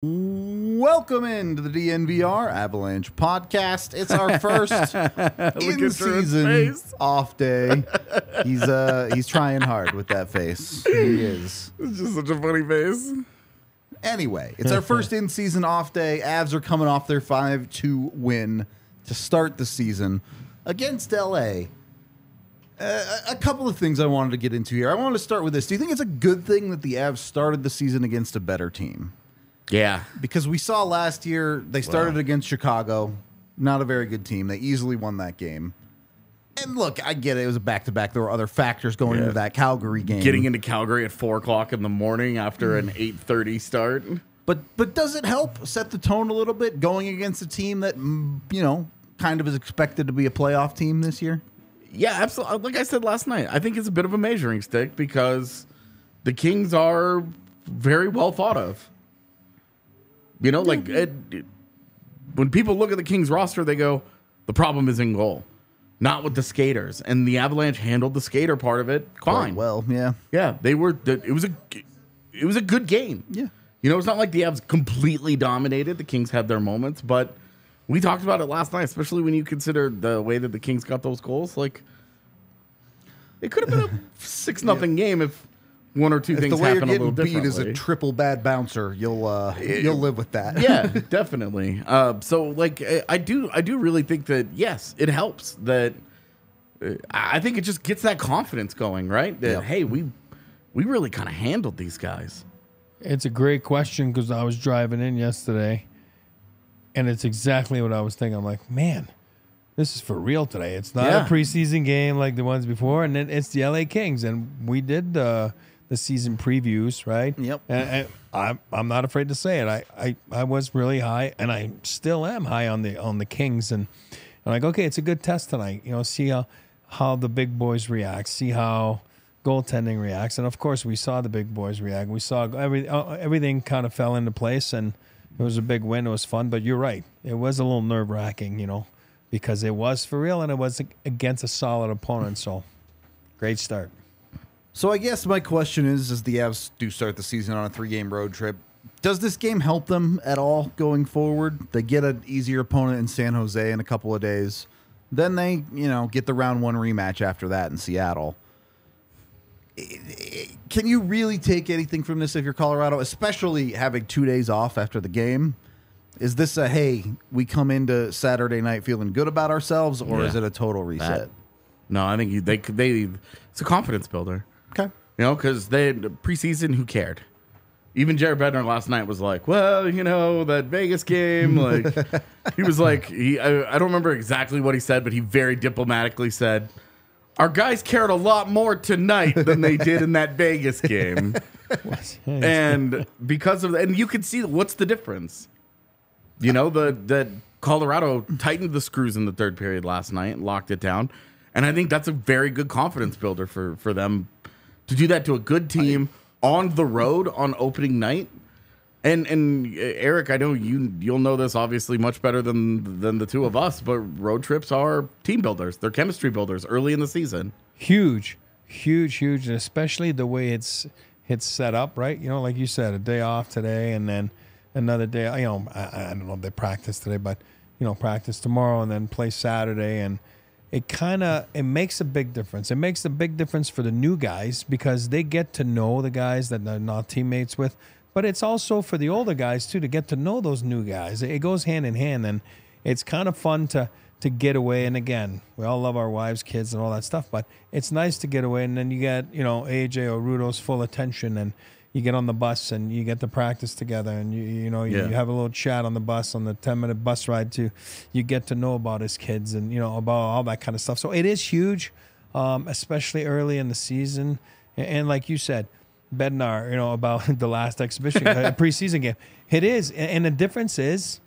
Welcome into the DNVR Avalanche podcast. It's our first in-season off day. He's trying hard with that face. He is. It's just such a funny face. Anyway, it's our first in-season off day. Avs are coming off their 5-2 win to start the season against LA. A couple of things I wanted to get into here. I wanted to start with this. Do you think it's a good thing that the Avs started the season against a better team? Yeah. Because we saw last year they started against Chicago, not a very good team. They easily won that game. And look, I get it. It was a back-to-back. There were other factors going into that Calgary game. Getting into Calgary at 4 o'clock in the morning after an 8:30 start. But does it help set the tone a little bit going against a team that, kind of is expected to be a playoff team this year? Yeah, absolutely. Like I said last night, I think it's a bit of a measuring stick because the Kings are very well thought of. When people look at the Kings roster, they go, the problem is in goal, not with the skaters. And the Avalanche handled the skater part of it fine. Quite well, yeah. Yeah, they were. It was a good game. Yeah. It's not like the Avs completely dominated. The Kings had their moments, but we talked about it last night, especially when you consider the way that the Kings got those goals. Like, it could have been a 6-0 game if one or two things happen a little differently. The way you're getting beat is a triple bad bouncer. You'll live with that. Yeah, definitely. I do really think that yes, it helps. That I think it just gets that confidence going, right? That hey, we really kind of handled these guys. It's a great question because I was driving in yesterday, and it's exactly what I was thinking. I'm like, man, this is for real today. It's not a preseason game like the ones before, and then it's the LA Kings, and we did the season previews, right? Yep. And I'm not afraid to say it. I was really high, and I still am high on the Kings, and I'm like, okay, it's a good test tonight. See how the big boys react, see how goaltending reacts, and of course we saw the big boys react. We saw everything kind of fell into place, and it was a big win. It was fun, but you're right. It was a little nerve-wracking, because it was for real, and it was against a solid opponent. So, great start. So I guess my question is, as the Avs do start the season on a 3-game road trip, does this game help them at all going forward? They get an easier opponent in San Jose in a couple of days. Then they, get the round 1 rematch after that in Seattle. Can you really take anything from this if you're Colorado, especially having 2 days off after the game? Is this a, hey, we come into Saturday night feeling good about ourselves, or is it a total reset? No, I think it's a confidence builder. Okay. Because they preseason, who cared? Even Jared Bednar last night was like, well, that Vegas game, like, he was like, I don't remember exactly what he said, but he very diplomatically said, our guys cared a lot more tonight than they did in that Vegas game. And because of that, and you can see what's the difference. That Colorado tightened the screws in the third period last night and locked it down. And I think that's a very good confidence builder for them to do that to a good team on the road on opening night. And Eric, I know you'll know this obviously much better than the two of us, but road trips are team builders. They're chemistry builders early in the season. Huge, and especially the way it's set up, right? Like you said, a day off today and then another day. I don't know if they practice today, but practice tomorrow and then play Saturday, and it makes a big difference. It makes a big difference for the new guys because they get to know the guys that they're not teammates with. But it's also for the older guys, too, to get to know those new guys. It goes hand in hand, and it's kind of fun to get away. And, again, we all love our wives, kids, and all that stuff, but it's nice to get away. And then you get, AJ or Rudo's full attention, and you get on the bus, and you get to practice together, and, you have a little chat on the bus, on the 10-minute bus ride, too. You get to know about his kids and, about all that kind of stuff. So it is huge, especially early in the season. And like you said, Bednar, about the last exhibition, preseason game. It is, and the difference is,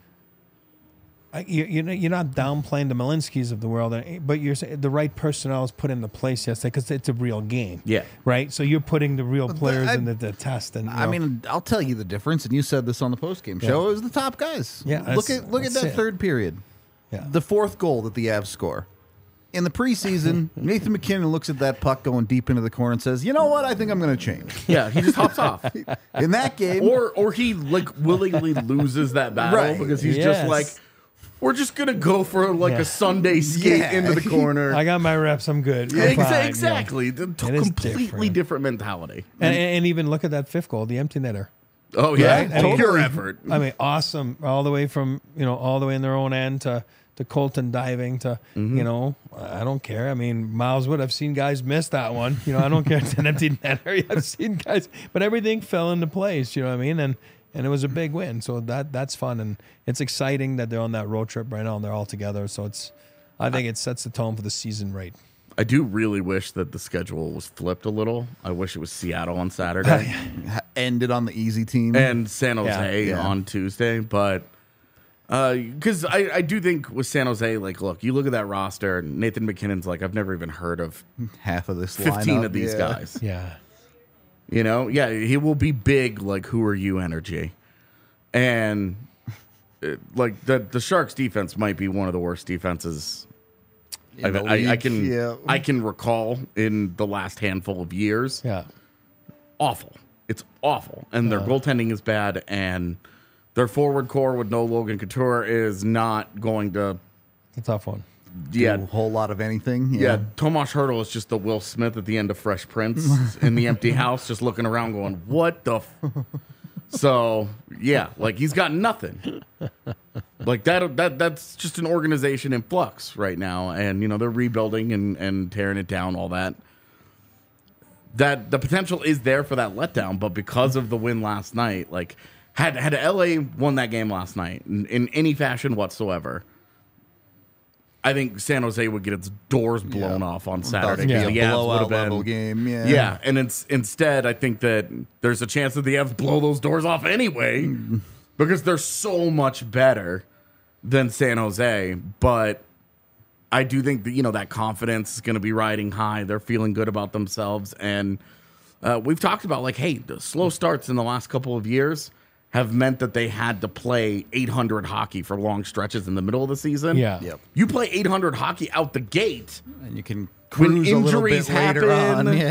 you're not downplaying the Malinskis of the world, but you're saying the right personnel is put into place yesterday because it's a real game. Yeah. Right? So you're putting the real players in the test. And I'll tell you the difference, and you said this on the postgame show. It was the top guys. Yeah. Look at that third period. Yeah. The fourth goal that the Avs score. In the preseason, Nathan McKinnon looks at that puck going deep into the corner and says, "You know what? I think I'm going to change." Yeah, he just hops off. In that game, Or he like willingly loses that battle Right. because he's Yes. just like, we're just gonna go for like Yeah. a Sunday skate Yeah. into the corner. I got my reps. I'm good. I'm fine, yeah. Exactly. The is completely different. different mentality. And even look at that fifth goal, the empty netter. Oh yeah, Right? I mean, pure effort. I mean, awesome. All the way from, all the way in their own end to Colton diving to, I don't care. I mean, Miles Wood, I've seen guys miss that one. I don't care. It's an empty netter. I've seen guys, but everything fell into place. You know what I mean? And it was a big win. So that's fun. And it's exciting that they're on that road trip right now and they're all together. So I think it sets the tone for the season right. I do really wish that the schedule was flipped a little. I wish it was Seattle on Saturday ended on the easy team. and San Jose Yeah. on Tuesday, but because I do think with San Jose, like, look, you look at that roster, Nathan McKinnon's like, I've never even heard of Half of this 15 lineup, of these yeah. guys. Yeah. Yeah, he will be big, like, who are you energy. And like the Sharks defense might be one of the worst defenses In the I league, can yeah. I can recall in the last handful of years. Yeah. Awful. It's awful. And their goaltending is bad, and their forward core with no Logan Couture is not going to It's a tough one. Do a whole lot of anything. Yeah, Tomas Hertl is just the Will Smith at the end of Fresh Prince in the empty house, just looking around going, what the So, yeah, like he's got nothing. Like that's just an organization in flux right now. And, they're rebuilding and tearing it down, all that. That the potential is there for that letdown, but because of the win last night, like had LA won that game last night in any fashion whatsoever, I think San Jose would get its doors blown off on Saturday. Yeah, The Avs blowout would've been- level game. Yeah, Yeah, and instead, I think that there's a chance that the Avs blow those doors off anyway because they're so much better than San Jose. But I do think that, that confidence is going to be riding high. They're feeling good about themselves. And we've talked about, like, hey, the slow starts in the last couple of years have meant that they had to play 800 hockey for long stretches in the middle of the season. Yeah. Yep. You play 800 hockey out the gate. And you can When cruise a little bit injuries happen, later on. Yeah.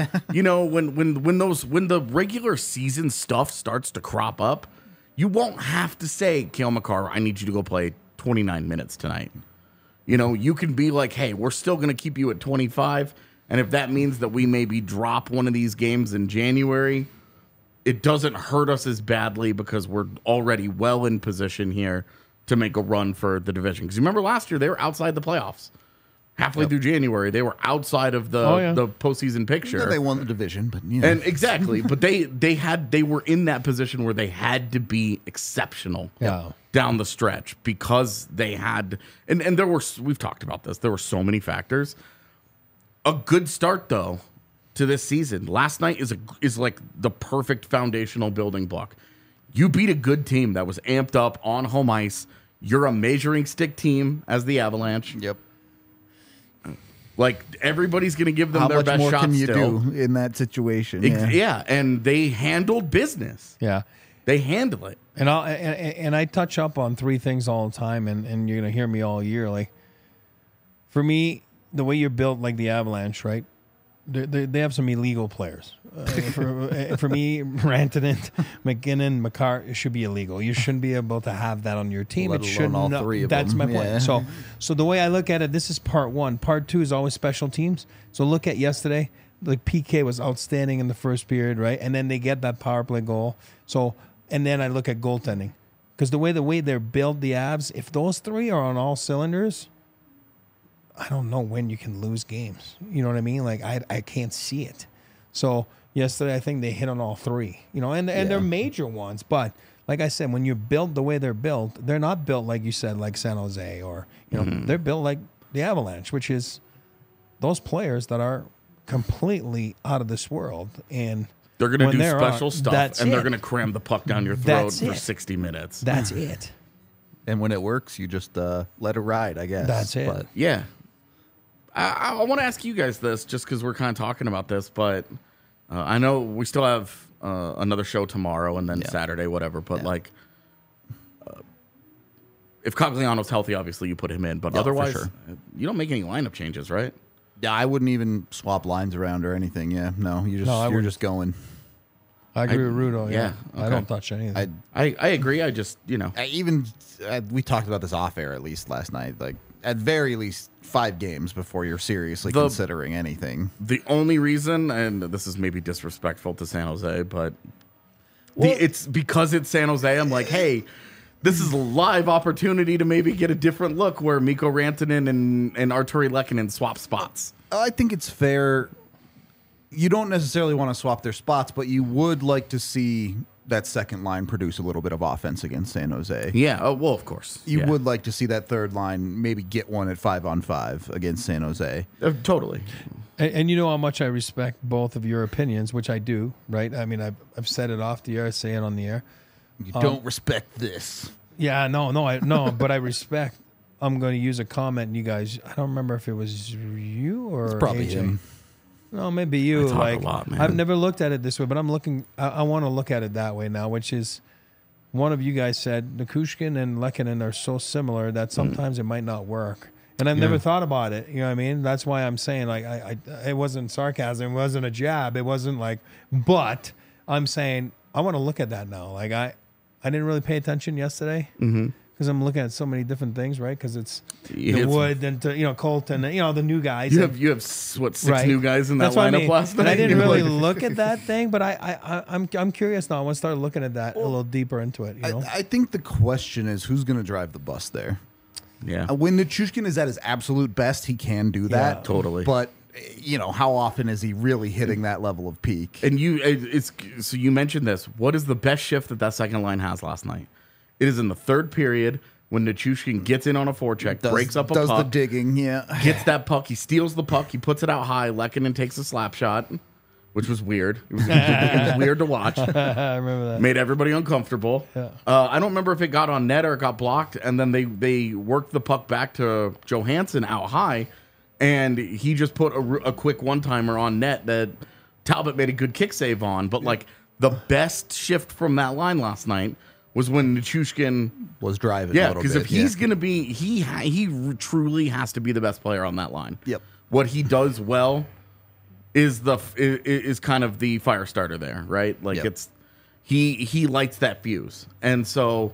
when the regular season stuff starts to crop up, you won't have to say, Cale Makar, I need you to go play 29 minutes tonight. You can be like, hey, we're still going to keep you at 25. And if that means that we maybe drop one of these games in January, it doesn't hurt us as badly because we're already well in position here to make a run for the division. Because you remember last year, they were outside the playoffs. Halfway through January, they were outside of the postseason picture. Yeah, they won the division, but And exactly, but they were in that position where they had to be exceptional down the stretch because they had and we've talked about this. There were so many factors. A good start though to this season. Last night is like the perfect foundational building block. You beat a good team that was amped up on home ice. You're a measuring stick team as the Avalanche. Yep. Like everybody's going to give them How their much best more shot can you still. do in that situation? Yeah, and they handled business. Yeah. They handle it. And I touch up on three things all the time, and you're gonna hear me all year. Like, for me, the way you're built, like the Avalanche, right? They have some illegal players. For me, Rantanen, McKinnon, Makar, it should be illegal. You shouldn't be able to have that on your team. Let It alone should all not. three of That's them. my point. Yeah. So the way I look at it, this is part one. Part two is always special teams. So look at yesterday. Like PK was outstanding in the first period, right? And then they get that power play goal. So, and then I look at goaltending. Because the way they're built, the Avs, if those three are on all cylinders, I don't know when you can lose games. You know what I mean? Like, I can't see it. So yesterday, I think they hit on all three. And they're major ones. But like I said, when you're built the way they're built, they're not built, like you said, like San Jose or, they're built like the Avalanche, which is those players that are completely out of this world. And They're going to when do they're special on, stuff, that's and they're it. going to cram the puck down your throat That's for it. 60 minutes. That's it. And when it works, you just let it ride, I guess. That's it. But Yeah. I want to ask you guys this just because we're kind of talking about this, but I know we still have another show tomorrow and then Saturday, whatever. But if Cogliano's healthy, obviously you put him in, but Yeah, for otherwise, sure. you don't make any lineup changes, right? Yeah, I wouldn't even swap lines around or anything. Yeah, no, I you're wouldn't. just going. I agree with Rudo. Yeah, yeah, I okay. don't touch anything. I agree. I just, We talked about this off air at least last night. Like at very least 5 games before you're seriously considering anything. the only reason, and this is maybe disrespectful to San Jose, but Well- it's because it's San Jose. I'm like, hey, this is a live opportunity to maybe get a different look where Mikko Rantanen and Arturi Lehkonen swap spots. I think it's fair. You don't necessarily want to swap their spots, but you would like to see that second line produce a little bit of offense against San Jose. Yeah, well, of course. You Yeah. would like to see that third line maybe get one at 5-on-5 against San Jose. Totally. And you know how much I respect both of your opinions, which I do, right? I mean, I've said it off the air, I say it on the air. You don't respect this. Yeah, no, but I respect. I'm going to use a comment, you guys. I don't remember if it was you or It's probably AJ. him. No, maybe you. I talk Like a lot, man. I've never looked at it this way, but I'm looking. I want to look at it that way now, which is one of you guys said Nichushkin and Lehkonen are so similar that sometimes it might not work. And I've never thought about it. You know what I mean? That's why I'm saying like I it wasn't sarcasm, it wasn't a jab, it wasn't like. But I'm saying I want to look at that now. Like I didn't really pay attention yesterday. Because I'm looking at so many different things, right? Because it's the Wood and Colton, the new guys. You have what, 6 Right. new guys in that That's what I lineup mean. last night? And I didn't really Like- look at that thing, but I'm curious now. I want to start looking at that a little deeper into it. You know? I think the question is who's going to drive the bus there. Yeah. When Nichushkin is at his absolute best, he can do that. Yeah. Totally. But, how often is he really hitting that level of peak? And so you mentioned this. What is the best shift that second line has last night? It is in the third period when Nichushkin gets in on a forecheck, breaks up a does puck, the digging, yeah. gets that puck, he steals the puck, he puts it out high. Lehkonen takes a slap shot, which was weird. It was weird to watch. I remember that. Made everybody uncomfortable. Yeah. I don't remember if it got on net or it got blocked, and then they worked the puck back to Johansson out high, and he just put a quick one-timer on net that Talbot made a good kick save on. But like the best shift from that line last night was when Nichushkin, Was driving a yeah, little because bit. if he's gonna be, he truly has to be the best player on that line. Yep. What he does well is is kind of the fire starter there, right? Like Yep. it's he lights that fuse, and so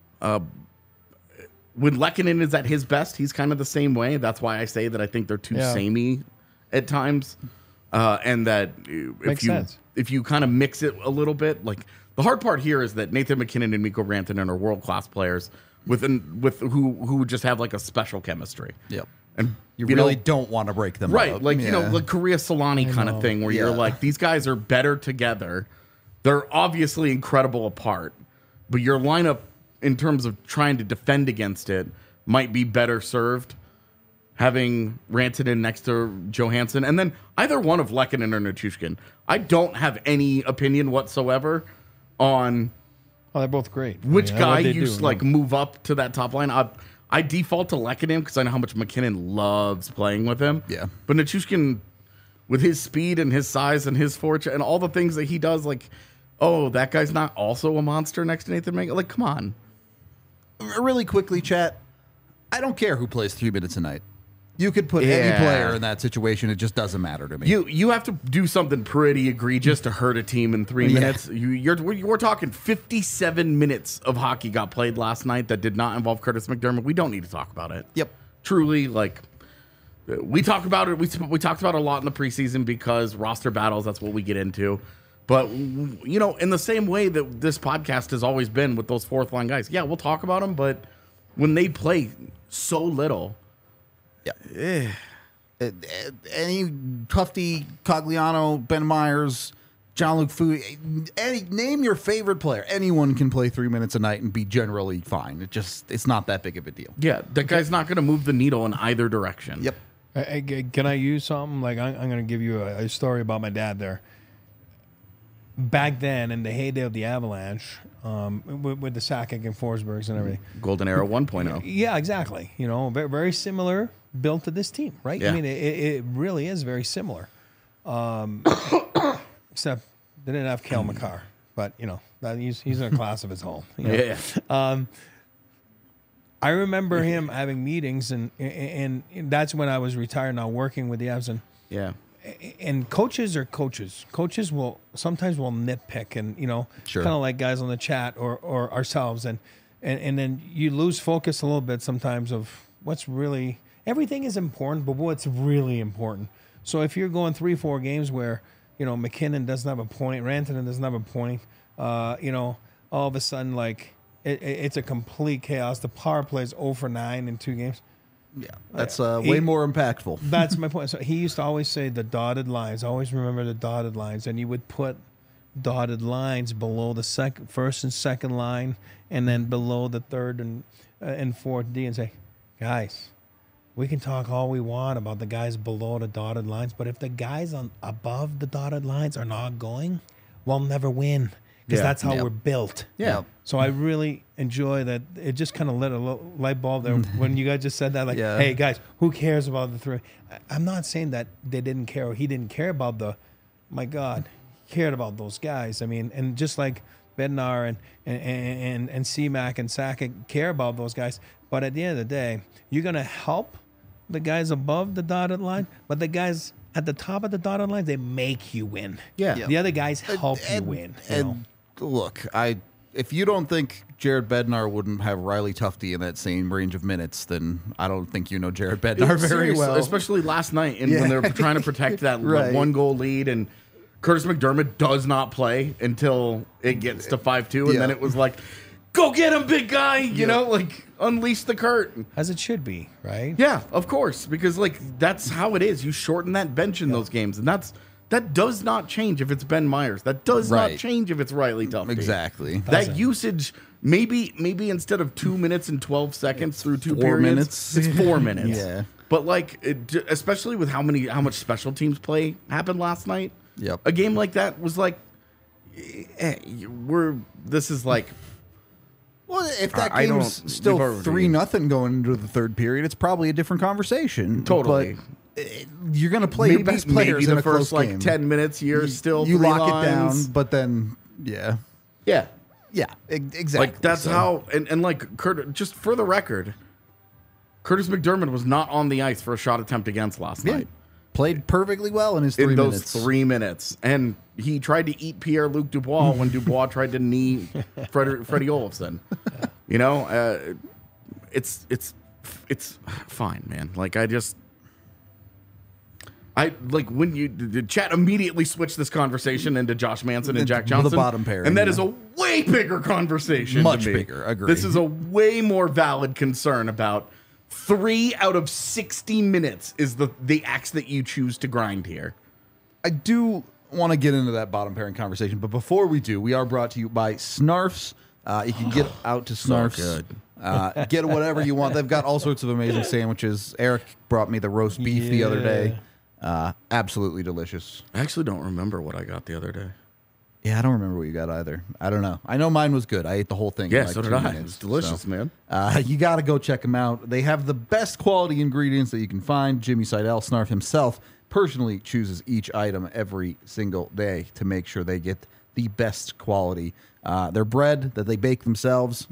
when Lehkonen is at his best, he's kind of the same way. That's why I say that I think they're too Yeah. samey at times, and that Makes sense. if you kind of mix it a little bit, like the hard part here is that Nathan McKinnon and Mikko Rantanen are world class players with who just have like a special chemistry. Yep. And You know, really don't want to break them right, up. like Yeah. like Korea Solani kind of thing, where you're Yeah. like, these guys are better together. They're obviously incredible apart, but your lineup in terms of trying to defend against it might be better served having Rantanen next to Johansson, and then either one of Lehkonen or Nichushkin. I don't have any opinion whatsoever on Oh, they're both great. which I mean, guy what they you do, like move up to that top line. I default to Lehkonen because I know how much McKinnon loves playing with him. Yeah. But Nichushkin, with his speed and his size and his fortune and all the things that he does, like, oh, that guy's not also a monster next to Nathan McKinnon. Like, come on. Really quickly, chat. I don't care who plays 3 minutes a night. You could put any Yeah. player in that situation. It just doesn't matter to me. You have to do something pretty egregious to hurt a team in 3 minutes. We're talking 57 minutes of hockey got played last night that did not involve Curtis McDermott. We don't need to talk about it. Yep. Truly, like, we talk about it. We talked about it a lot in the preseason because roster battles, that's what we get into. But, in the same way that this podcast has always been with those fourth line guys, yeah, we'll talk about them, but when they play so little, Yeah. Any Tufty, Cogliano, Ben Myers, John-Luc Fu, name your favorite player. Anyone can play 3 minutes a night and be generally fine. It's not that big of a deal. yeah, that guy's not going to move the needle in either direction. Yep. Can I use something? Like, I'm going to give you a story about my dad there. Back then, in the heyday of the Avalanche, with the Sakic and Forsbergs and everything. Golden Era 1.0. Yeah, exactly. Very, very similar built to this team, right? Yeah. I mean, it really is very similar. Except they didn't have Cale Makar, but he's in a class of his own. Yeah. I remember him having meetings, and that's when I was retired, now working with the Avs. Yeah. And coaches are coaches. Coaches will sometimes nitpick, and Sure. kind of like guys on the chat or ourselves, and then you lose focus a little bit sometimes of what's really, everything is important, but what's really important. So if you're going 3-4 games where McKinnon doesn't have a point, Rantanen doesn't have a point, all of a sudden like it's a complete chaos. The power play is 0 for 9 in 2 games. Yeah, that's way more impactful. That's my point. So he used to always say the dotted lines. Always remember the dotted lines, and you would put dotted lines below the first and second line, and then below the third and fourth D, and say, guys, we can talk all we want about the guys below the dotted lines, but if the guys above the dotted lines are not going, we'll never win, because that's how we're built. Yeah. So I really enjoy that. It just kind of lit a light bulb there when you guys just said that. Like, hey, guys, who cares about the 3? I'm not saying that they didn't care or he didn't care about my God, he cared about those guys. I mean, and just like Bednar and CMAC and Sakic care about those guys. But at the end of the day, you're going to help the guys above the dotted line, but the guys at the top of the dotted line, they make you win. Yeah. The other guys help you win. And look, if you don't think Jared Bednar wouldn't have Riley Tufte in that same range of minutes, then I don't think you know Jared Bednar very Serious, well. especially last night, and when they're trying to protect that Right. 1-goal lead, and Curtis McDermott does not play until it gets to 5-2, and then it was like, go get him, big guy, you know, like unleash the Kurt. As it should be, right? Yeah, of course, because like that's how it is. You shorten that bench in those games, and that does not change if it's Ben Myers. That does not change if it's Riley Tufte. Exactly. That usage, maybe instead of 2 minutes and 12 seconds through 2 4 periods, minutes. it's 4 minutes. Yeah. But like, especially with how much special teams play happened last night. Yep. A game like that was like, this is like. Well, if that I game's don't- still we've already- 3-0 going into the third period, it's probably a different conversation. Totally. But you're going to play your best players maybe in the a close first like game. 10 minutes. You're still you three lock lines. it down, but then Yeah. exactly. Like that's how and like just for the record, Curtis McDermott was not on the ice for a shot attempt against last night. Played perfectly well in his 3 In those minutes. 3 minutes. And he tried to eat Pierre-Luc Dubois when Dubois tried to knee Freddie Olofsson. You know, it's fine, man. Like I like when the chat immediately switched this conversation into Josh Manson and Jack The Johnson. bottom pairing, and that yeah. is a way bigger conversation. Much to me. bigger, agree. This is a way more valid concern about 3 out of 60 minutes is the axe that you choose to grind here. I do want to get into that bottom pairing conversation, but before we do, we are brought to you by Snarfs. You can get out to Snarfs. Get whatever you want. They've got all sorts of amazing sandwiches. Eric brought me the roast beef the other day. Absolutely delicious. I actually don't remember what I got the other day. Yeah, I don't remember what you got either. I don't know. I know mine was good. I ate the whole thing. Yeah, in like so did 2 I. minutes, It's delicious, so. man. You got to go check them out. They have the best quality ingredients that you can find. Jimmy Seidel, Snarf himself, personally chooses each item every single day to make sure they get the best quality. Their bread that they bake themselves,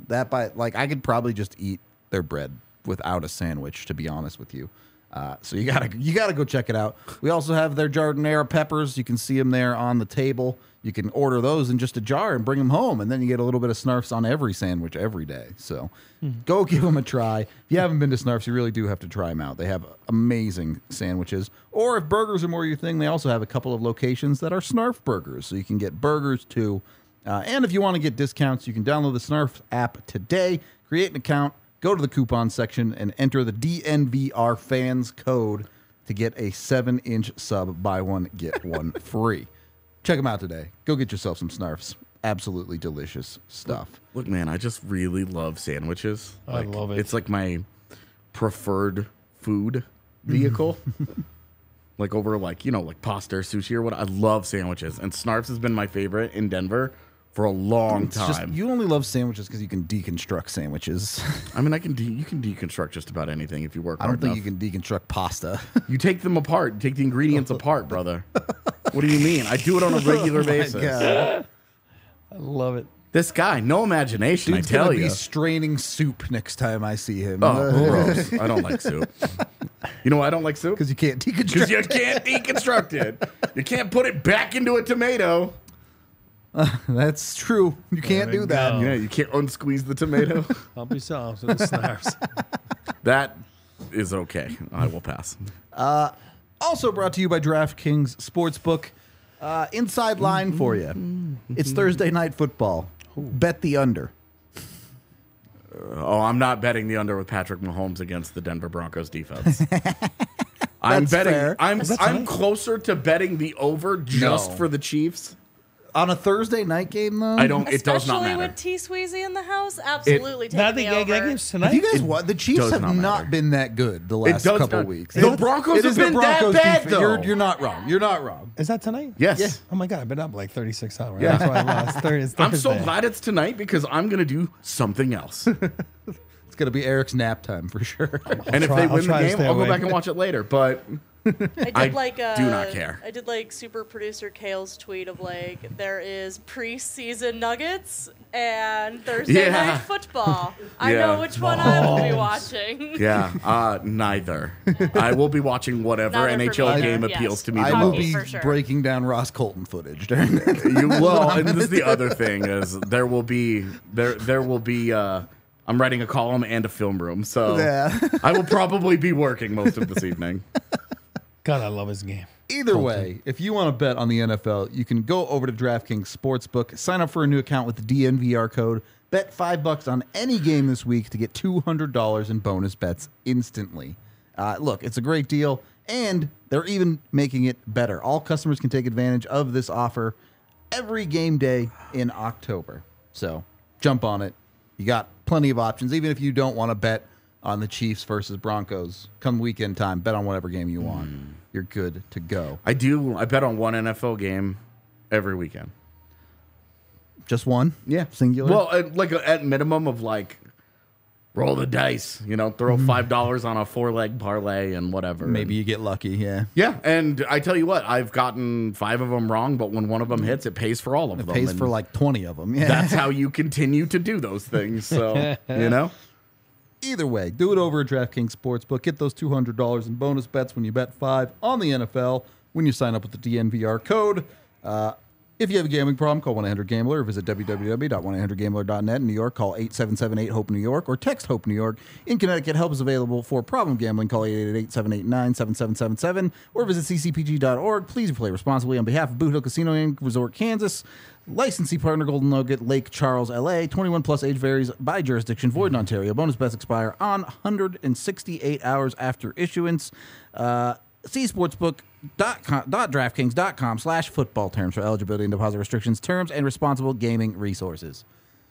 I could probably just eat their bread without a sandwich, to be honest with you. So you gotta go check it out. We also have their jardinera peppers. You can see them there on the table. You can order those in just a jar and bring them home, and then you get a little bit of Snarfs on every sandwich every day. So go give them a try. If you haven't been to Snarfs, you really do have to try them out. They have amazing sandwiches. Or if burgers are more your thing, they also have a couple of locations that are Snarf burgers, so you can get burgers too. And if you want to get discounts, you can download the Snarf app today, create an account, go to the coupon section, and enter the DNVR fans code to get a 7-inch sub. Buy one, get one free. Check them out today. Go get yourself some Snarfs. Absolutely delicious stuff. Look, man, I just really love sandwiches. I love it. It's like my preferred food vehicle. Like over like pasta or sushi or what. I love sandwiches. And Snarfs has been my favorite in Denver for a long It's just, time. you only love sandwiches because you can deconstruct sandwiches. I mean, you can deconstruct just about anything if you work I don't hard think enough. you can deconstruct pasta. You take them apart. You take the ingredients apart, brother. What do you mean? I do it on a regular basis. God. I love it. This guy, no imagination, Dude's I tell gonna you. be straining soup next time I see him. Oh, gross. I don't like soup. You know why I don't like soup? Because you can't deconstruct Because you it. can't deconstruct it. You can't put it back into a tomato. That's true. You can't we do that. go. Yeah, you can't unsqueeze the tomato. Help yourselves with the snaps. That is okay. I will pass. Also brought to you by DraftKings Sportsbook. Inside line for you. It's Thursday night football. Bet the under. Oh, I'm not betting the under with Patrick Mahomes against the Denver Broncos defense. I'm That's betting. fair. I'm that I'm tonight? closer to betting the over just No. for the Chiefs. On a Thursday night game, though? I don't. It does not Especially matter. with T Sweezy in the house, absolutely That taking the over. game's Have tonight. you guys what? The Chiefs does have not not matter. been that good the It last does couple not- weeks. The Broncos it is have been that bad, defense. though. You're not wrong. You're not wrong. Is that tonight? Yes. Yeah. Oh my god, I've been up like 36 hours. Yeah. That's why I lost. It's I'm so Thursday. glad it's tonight because I'm gonna do something else. It's going to be Eric's nap time for sure. And if try- they I'll win the try to game, stay I'll go awake. back and watch it later. But I did I like do not care. I did like super producer Kale's tweet of like there is preseason nuggets and Thursday Yeah. night football. I Yeah. know which one I will be watching. yeah, neither. I will be watching whatever Neither for NHL me, game yes. appeals to me I the will Hockey, most. be for sure. breaking down Ross Colton footage during that. You will, and this is the other thing is there will be I'm writing a column and a film room, so Yeah. I will probably be working most of this evening. God, I love his game. Either way, if you want to bet on the NFL, you can go over to DraftKings Sportsbook, sign up for a new account with the DNVR code, bet $5 on any game this week to get $200 in bonus bets instantly. Look, it's a great deal, and they're even making it better. All customers can take advantage of this offer every game day in October. So jump on it. You got plenty of options, even if you don't want to bet on the Chiefs versus Broncos. Come weekend time, bet on whatever game you want. You're good to go. I bet on one NFL game every weekend. Just one? Yeah, Singular? Well, at minimum of like roll the dice, throw $5 on a 4-leg parlay and whatever. Maybe you get lucky, yeah. Yeah, and I tell you what, I've gotten 5 of them wrong, but when one of them hits, it pays for all of them. Pays and for like 20 of them. Yeah. that's how you continue to do those things. So Either way, do it over at DraftKings Sportsbook. Get those $200 in bonus bets when you bet 5 on the NFL when you sign up with the DNVR code. If you have a gambling problem, call 1-800-GAMBLER or visit www.1800gambler.net. In New York, call 877-8-HOPE-NEW YORK or text HOPE New York. In Connecticut, help is available for problem gambling. Call 888-789-7777 or visit ccpg.org. Please play responsibly on behalf of Boot Hill Casino and Resort, Kansas. Licensee partner Golden Nugget, Lake Charles, LA. 21 plus age varies by jurisdiction. Void in Ontario. Bonus bets expire on 168 hours after issuance. See sportsbook.draftkings.com/football terms for eligibility and deposit restrictions, terms, and responsible gaming resources.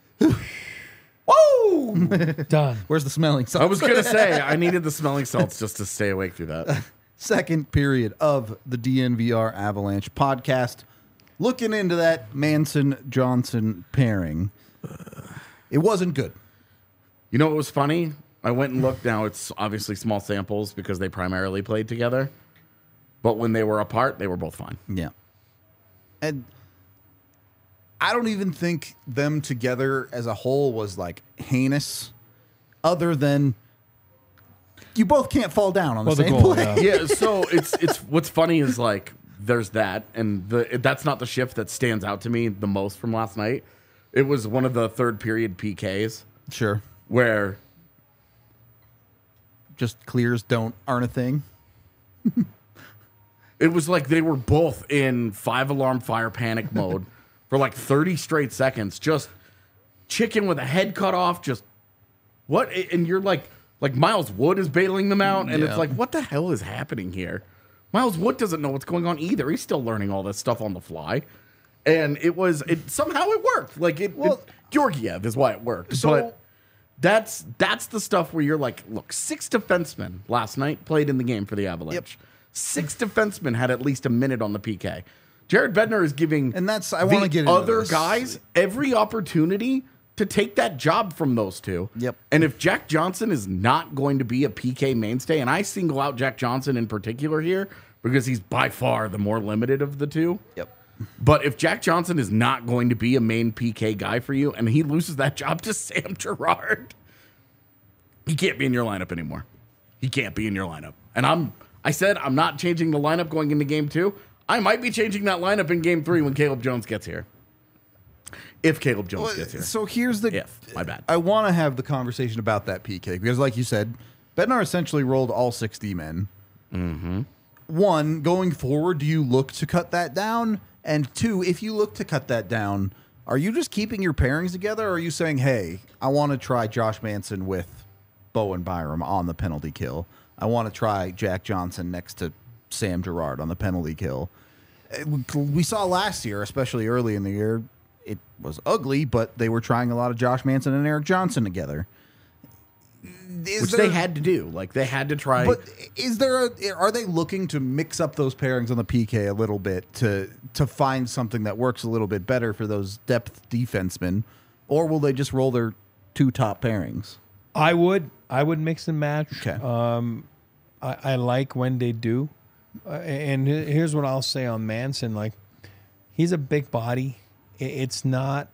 Woo! Done. Where's the smelling salts? I was going to say, I needed the smelling salts just to stay awake through that. Second period of the DNVR Avalanche podcast. Looking into that Manson-Johnson pairing. It wasn't good. You know what was funny? I went and looked. Now, it's obviously small samples because they primarily played together. But when they were apart, they were both fine. Yeah. And I don't even think them together as a whole was like heinous, other than you both can't fall down on the Well, the same goal, play. yeah. Yeah, so it's what's funny is like there's that, and that's not the shift that stands out to me the most from last night. It was one of the third period PKs Sure. where Just clears aren't a thing. it was like they were both in 5-alarm fire panic mode for like 30 straight seconds, just chicken with a head cut off, just what? And you're like Miles Wood is bailing them out, and Yeah. it's like, what the hell is happening here? Miles Wood doesn't know what's going on either. He's still learning all this stuff on the fly. And somehow it worked. Georgiev is why it worked. So- but that's the stuff where you're like, look, 6 defensemen last night played in the game for the Avalanche. Yep. 6 defensemen had at least a minute on the PK. Jared Bednar is giving And I wanna get into other this. guys every opportunity to take that job from those two. Yep. And if Jack Johnson is not going to be a PK mainstay, and I single out Jack Johnson in particular here because he's by far the more limited of the two. Yep. But if Jack Johnson is not going to be a main PK guy for you and he loses that job to Sam Girard, he can't be in your lineup anymore. He can't be in your lineup. And I said I'm not changing the lineup going into game 2. I might be changing that lineup in game 3 when Caleb Jones gets here. If Caleb Jones gets here. So here's the... My bad. I want to have the conversation about that PK because, like you said, Bednar essentially rolled all 60 men. Mm-hmm. One, going forward, do you look to cut that down? And 2, if you look to cut that down, are you just keeping your pairings together, or are you saying, hey, I want to try Josh Manson with Bowen Byram on the penalty kill. I want to try Jack Johnson next to Sam Girard on the penalty kill. We saw last year, especially early in the year, it was ugly, but they were trying a lot of Josh Manson and Eric Johnson together. Which they had to do. Like, they had to try. But are they looking to mix up those pairings on the PK a little bit to find something that works a little bit better for those depth defensemen? Or will they just roll their 2 top pairings? I would mix and match. Okay. I like when they do. And here's what I'll say on Manson. Like, he's a big body. This is not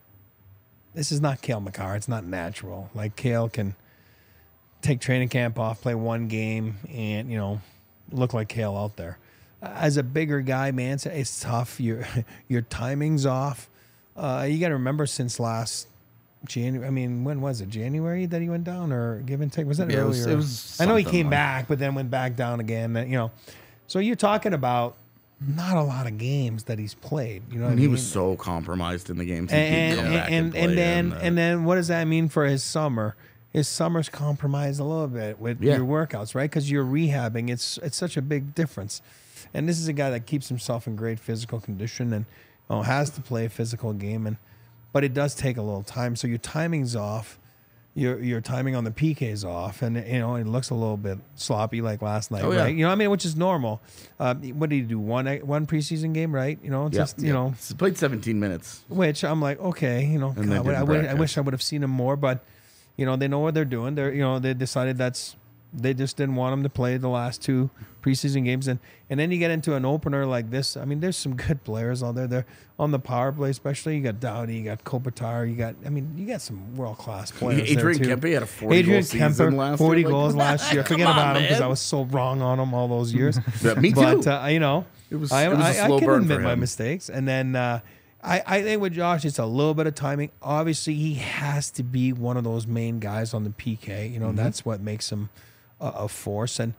Cale Makar. It's not natural. Like, Cale can take training camp off, play 1 game, and, look like Cale out there. As a bigger guy, Manson, it's tough. Your timing's off. You got to remember since last January. I mean, when was it? January that he went down, or give and take? Was that earlier? It was I know he came back, but then went back down again. So you're talking about not a lot of games that he's played. You know, what I mean? He was so compromised in the games. And then what does that mean for his summer? His summer's compromised a little bit with your workouts, right? Because you're rehabbing. It's such a big difference. And this is a guy that keeps himself in great physical condition and has to play a physical game. But it does take a little time. So your timing's off. Your timing on the PK is off. And, it looks a little bit sloppy like last night, right? You know what I mean? Which is normal. What did he do? One preseason game, right? He played 17 minutes. Which I'm like, okay, God, I wish I would have seen him more, but they know what they're doing. They decided they just didn't want him to play the last 2 preseason games, and then you get into an opener like this. I mean, there's some good players out there. They're on the power play, especially. You got Doughty, you got Kopitar, you got some world class players. Adrian Kempe had a 40-goal season last year. 40 goals last year. Forget about him because I was so wrong on him all those years. Me too. But it was a slow I can burn admit for my him. mistakes, and then. I think with Josh, it's a little bit of timing. Obviously, he has to be one of those main guys on the PK. That's what makes him a force. And,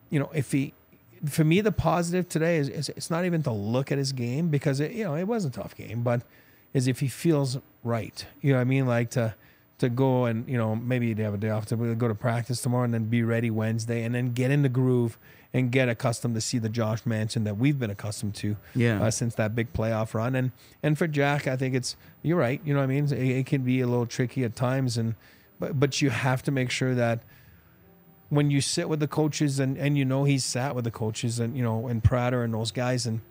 for me, the positive today is it's not even to look at his game because, it was a tough game, but is if he feels right. You know what I mean? Like to go and, maybe you'd have a day off to go to practice tomorrow and then be ready Wednesday and then get in the groove and get accustomed to see the Josh Manson that we've been accustomed to since that big playoff run. And for Jack, I think you're right. You know what I mean? It can be a little tricky at times, but you have to make sure that when you sit with the coaches and he's sat with the coaches and, and Prater and those guys and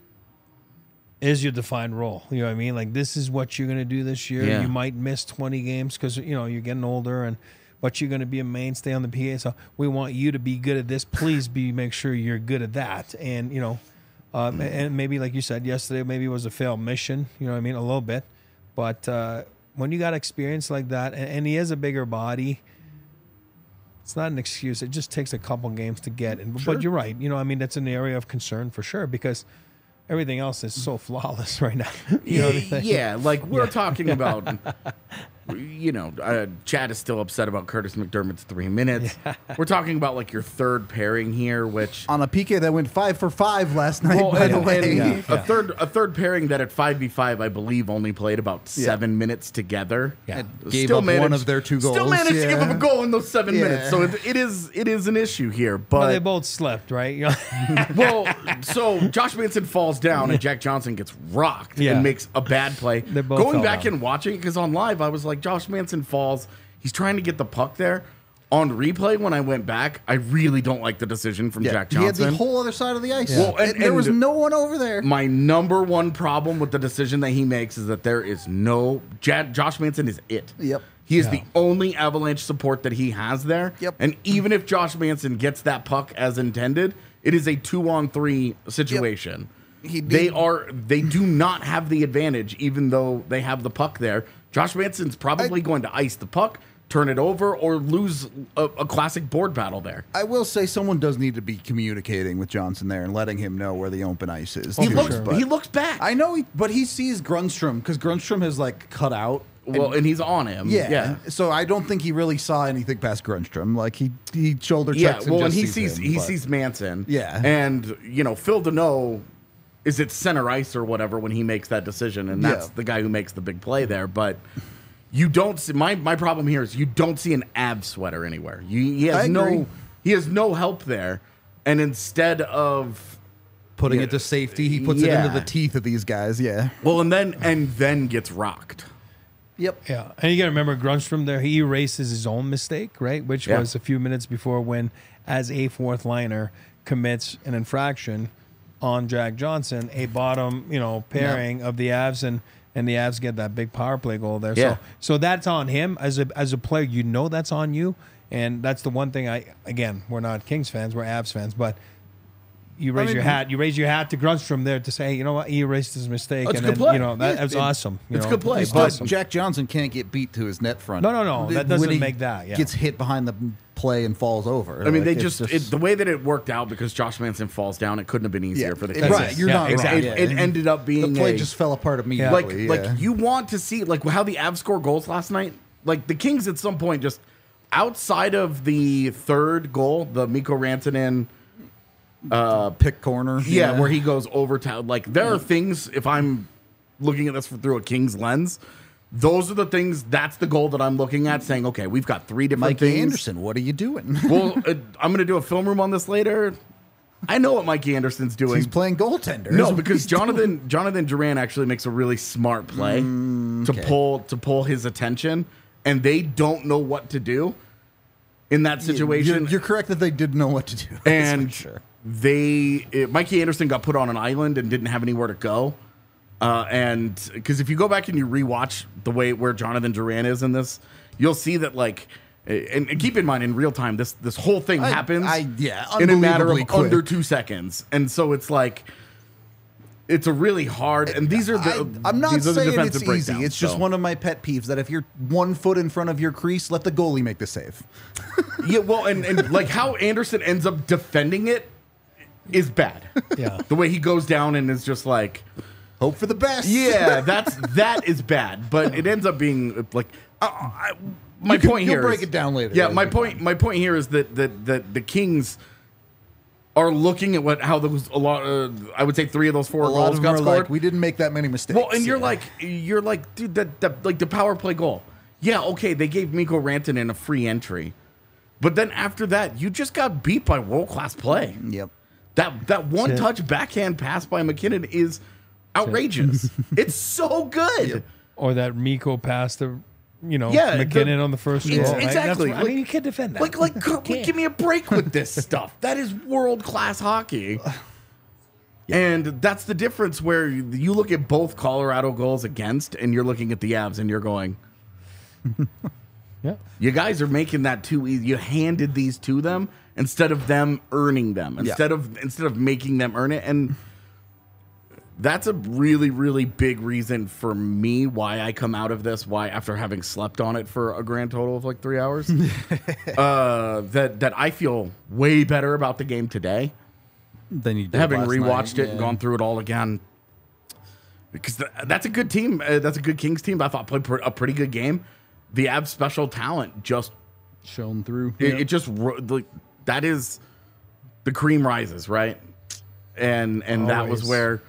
is your defined role. You know what I mean? Like, this is what you're going to do this year. Yeah. You might miss 20 games because, you're getting older but you're going to be a mainstay on the PA. So we want you to be good at this. Please make sure you're good at that. And, and maybe like you said yesterday, maybe it was a failed mission, you know what I mean? A little bit. But when you got experience like that, and he is a bigger body, it's not an excuse. It just takes a couple games to get. But you're right. That's an area of concern for sure because everything else is so flawless right now. You know what I mean? Yeah, like we're talking about... Chad is still upset about Curtis McDermott's 3 minutes. Yeah. We're talking about like your third pairing here, which on a PK that went 5 for 5 last night. By the way, a third pairing that at 5v5, I believe, only played about 7 minutes together. Yeah, gave up one of their 2 goals. Still managed to give up a goal in those 7 minutes. So it is an issue here. But they both slept, right? So Josh Manson falls down and Jack Johnson gets rocked and makes a bad play. Going back and watching it because on live I was like, Josh Manson falls. He's trying to get the puck there. On replay, when I went back, I really don't like the decision from Jack Johnson. He had the whole other side of the ice. Yeah. Well, and there was no one over there. My number one problem with the decision that he makes is that there is no... Josh Manson is it. Yep. He is the only Avalanche support that he has there. Yep. And even if Josh Manson gets that puck as intended, it is a 2-on-3 situation. Yep. They do not have the advantage, even though they have the puck there. Josh Manson's probably going to ice the puck, turn it over, or lose a classic board battle there. I will say someone does need to be communicating with Johnson there and letting him know where the open ice is. He too, looks but- he looks back. I know, but he sees Grundstrom because Grundstrom has like cut out. and he's on him. Yeah. So I don't think he really saw anything past Grundstrom. Like he shoulder Yeah, checks. well, and just he him, sees Manson. Yeah. And Phil Deneau is at center ice or whatever when he makes that decision, and that's Yeah. the guy who makes the big play there. But you don't see my problem here is you don't see an Av sweater anywhere. He I agree. has no help there, and instead of putting Yeah. it to safety, he puts it into Yeah. the teeth of these guys. Yeah. and then gets rocked. Yep. Yeah, and you got to remember Grundstrom there. He erases his own mistake, right? Which Yeah. was a few minutes before when, as a fourth liner, commits an infraction on Jack Johnson, a bottom, pairing of the Avs, and the Avs get that big power play goal there. Yeah. So that's on him as a player. That's on you, and that's the one thing. We're not Kings fans, we're Avs fans, but. You raise your hat. You raise your hat to Grundstrom there to say, you know what, he erased his mistake, It's and a good then play. that was awesome. It's a good play, It's but awesome. Jack Johnson can't get beat to his net front. No, that When doesn't he make that. Yeah. Gets hit behind the play and falls over. I mean, Like, they it's the way that it worked out because Josh Manson falls down, it couldn't have been easier for the Kings. right. You're Yeah, not exactly. wrong. It Yeah. ended up being the play just fell apart immediately. like you want to see like how the Avs score goals last night. Like the Kings at some point just outside of the third goal, the Mikko Rantanen pick corner. where he goes over to like there are things if I'm looking at this through a Kings lens, those are the things that's the goal that I'm looking at saying, okay, we've got three different Mikey things. Anderson, what are you doing? Well, I'm going to do a film room on this later. I know what Mikey Anderson's doing. He's playing goaltender. No, That's what because he's doing. Jonathan Duran actually makes a really smart play to pull his attention, and they don't know what to do in that situation. You're correct that they did know what to do. That's and for sure. Mikey Anderson got put on an island and didn't have anywhere to go. And because if you go back and you rewatch the way where Jonathan Duran is in this, you'll see that like. And keep in mind, in real time, this whole thing happens in a matter of unbelievably quick. under 2 seconds, and so it's like it's a really hard. And these are the I'm not these are the saying defensive it's easy. breakdowns, It's just so. one of my pet peeves that if you're 1 foot in front of your crease, let the goalie make the save. Yeah, well, and like how Anderson ends up defending it is bad. Yeah. The way he goes down and is just like, Hope for the best. yeah, that is bad. But it ends up being like my point you'll here. break is- it down later. Yeah, It'll my be point. My point here is that the Kings are looking at how those I would say 3 of those 4 A lot goals of them got are scored. like, we didn't make that many mistakes. Well, and you're Yeah. like, dude, that like the power play goal. Yeah, okay, they gave Mikko Rantanen a free entry, but then after that, you just got beat by world class play. Yep. That one touch backhand pass by McKinnon is outrageous. It's so good. Or that Mikko passed to, Yeah, McKinnon on the first goal. right? Exactly. I mean, you can't defend that. Give me a break with this stuff. That is world class hockey. And that's the difference where you look at both Colorado goals against, and you're looking at the Avs, and you're going, Yeah. you guys are making that too easy. You handed these to them instead of them earning them, instead of making them earn it. And that's a really, really big reason for me why I come out of this. Why, after having slept on it for a grand total of like 3 hours, that I feel way better about the game today, Then you did having last rewatched night. it and gone through it all again. Because that's a good team. That's a good Kings team. I thought played a pretty good game. The Avs special talent just shown through. it just that is the cream rises, right? And that was Always. where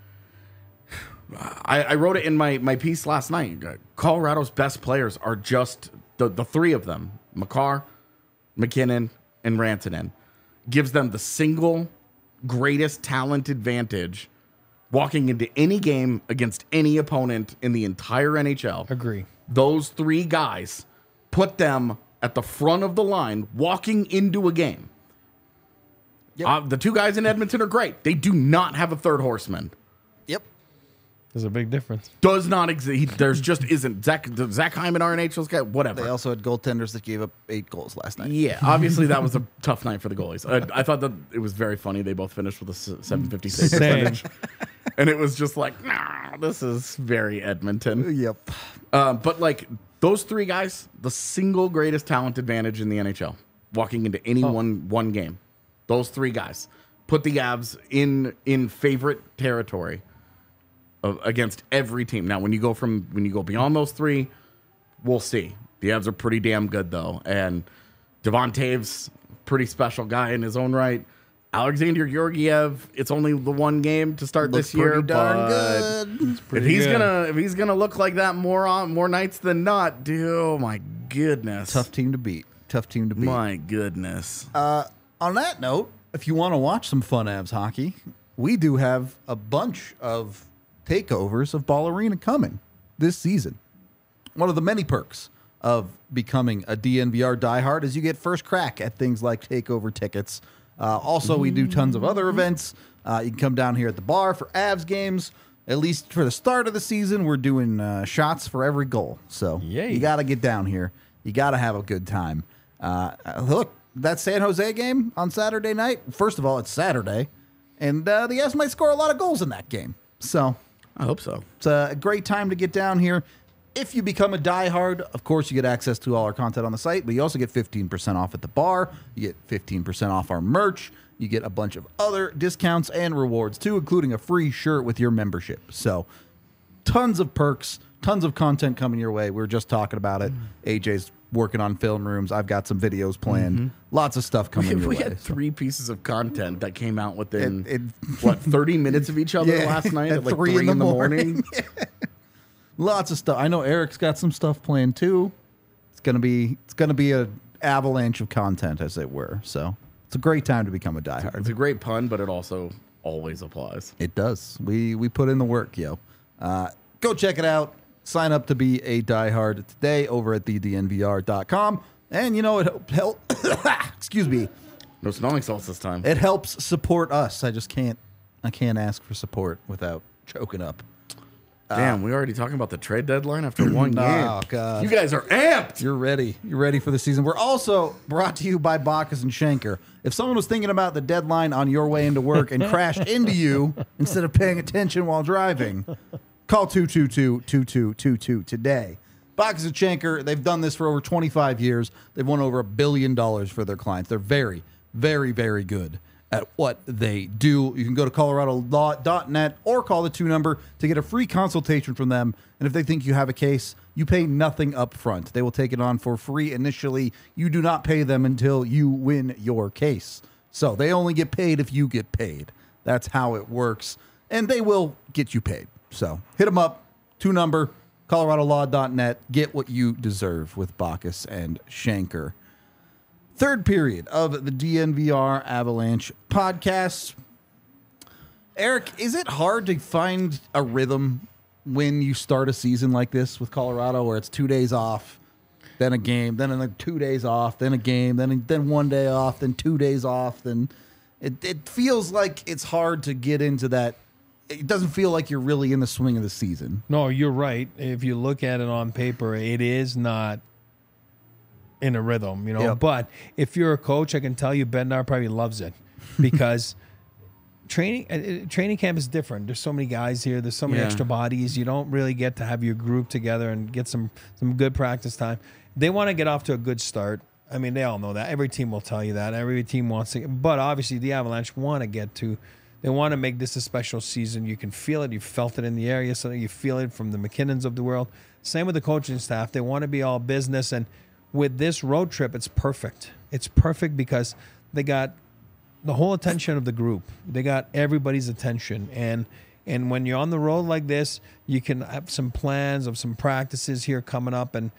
I wrote it in my piece last night. Colorado's best players are just the 3 of them: Makar, McKinnon, and Rantanen. Gives them the single greatest talent advantage walking into any game against any opponent in the entire NHL. Agree. Those 3 guys put them at the front of the line walking into a game. Yep. The 2 guys in Edmonton are great. They do not have a third horseman. Yep. There's a big difference. Does not exist. There's just isn't. Zach Hyman, our NHL's guy, whatever. They also had goaltenders that gave up 8 goals last night. Yeah, obviously that was a tough night for the goalies. I thought that it was very funny. They both finished with a 750 save Same. percentage. And it was just like, nah, this is very Edmonton. Yep. But like those three guys, the single greatest talent advantage in the NHL, walking into any one game. Those three guys put the Avs in favorite territory against every team. Now, when you go beyond those three, we'll see. The Avs are pretty damn good though, and Devon Toews, pretty special guy in his own right. Alexander Georgiev, it's only the one game to start Looks this year, pretty darn but good. if he's gonna look like that more nights than not, dude, oh my goodness, Tough team to beat. My goodness. On that note, if you want to watch some fun Avs hockey, we do have a bunch of takeovers of Ball Arena coming this season. One of the many perks of becoming a DNVR diehard is you get first crack at things like takeover tickets. Also, we do tons of other events. You can come down here at the bar for Avs games. At least for the start of the season, we're doing shots for every goal. So Yay. you got to get down here. You got to have a good time. Look, that San Jose game on Saturday night, first of all, it's Saturday, and the Avs might score a lot of goals in that game. So I hope so. it's a great time to get down here. If you become a diehard, of course, you get access to all our content on the site, but you also get 15% off at the bar. You get 15% off our merch. You get a bunch of other discounts and rewards, too, including a free shirt with your membership. So tons of perks, tons of content coming your way. We were just talking about it. AJ's working on film rooms. I've got some videos planned. Lots of stuff coming your We way. had 3 pieces of content that came out within, 30 minutes of each other Yeah, last night at at like 3 3 in the morning. Lots of stuff. I know Eric's got some stuff planned too. It's gonna be a avalanche of content, as it were. So it's a great time to become a diehard. It's a great pun, but it also always applies. It does. We put in the work, yo. Go check it out. Sign up to be a diehard today over at thednvr.com. And you know it excuse me. No smelling salts this time. It helps support us. I can't ask for support without choking up. Damn, we already talking about the trade deadline after one game. Oh, God. You guys are amped. You're ready. You're ready for the season. We're also brought to you by Bacchus and Schenker. If someone was thinking about the deadline on your way into work and crashed into you instead of paying attention while driving, call 222-2222 today. Bacchus and Schenker, they've done this for over 25 years. They've won over $1 billion for their clients. They're very, very, very good at what they do. You can go to coloradolaw.net or call the 2 number to get a free consultation from them. And if they think you have a case, you pay nothing up front. They will take it on for free initially. You do not pay them until you win your case. So they only get paid if you get paid. That's how it works. And they will get you paid. So hit them up, 2 number, coloradolaw.net. Get what you deserve with Bacchus and Schenker. Third period of the DNVR Avalanche podcast. Eric, is it hard to find a rhythm when you start a season like this with Colorado, where it's 2 days off, then a game, then another 2 days off, then a game, then 1 day off, then 2 days off? Then it feels like it's hard to get into that. It doesn't feel like you're really in the swing of the season. No, you're right. If you look at it on paper, it is not in a rhythm, Yep. But if you're a coach, I can tell you Bednar probably loves it because training camp is different. There's so many guys here. There's so many extra bodies. You don't really get to have your group together and get some good practice time. They want to get off to a good start. I mean, they all know that. Every team will tell you that. Every team wants to. But obviously, the Avalanche want to get to. They want to make this a special season. You can feel it. You felt it in the area. So you feel it from the McKinnons of the world. Same with the coaching staff. They want to be all business. And with this road trip, it's perfect. It's perfect because they got the whole attention of the group. They got everybody's attention. And when you're on the road like this, you can have some plans of some practices here coming up and,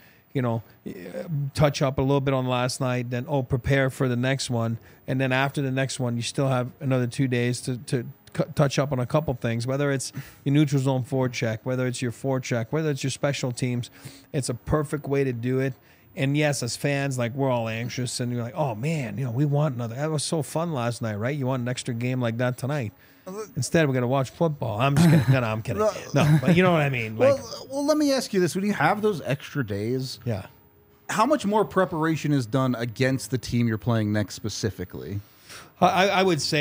touch up a little bit on last night, then, prepare for the next one. And then after the next one, you still have another 2 days to touch up on a couple things, whether it's your neutral zone forecheck, whether it's your forecheck, whether it's your special teams. It's a perfect way to do it. And yes, as fans, we're all anxious and you're like, oh man, we want another. That was so fun last night, right? You want an extra game like that tonight. Instead, we're going to watch football. I'm just kidding. No, I'm kidding. No, but you know what I mean. Well, let me ask you this. When you have those extra days, yeah. How much more preparation is done against the team you're playing next specifically? I would say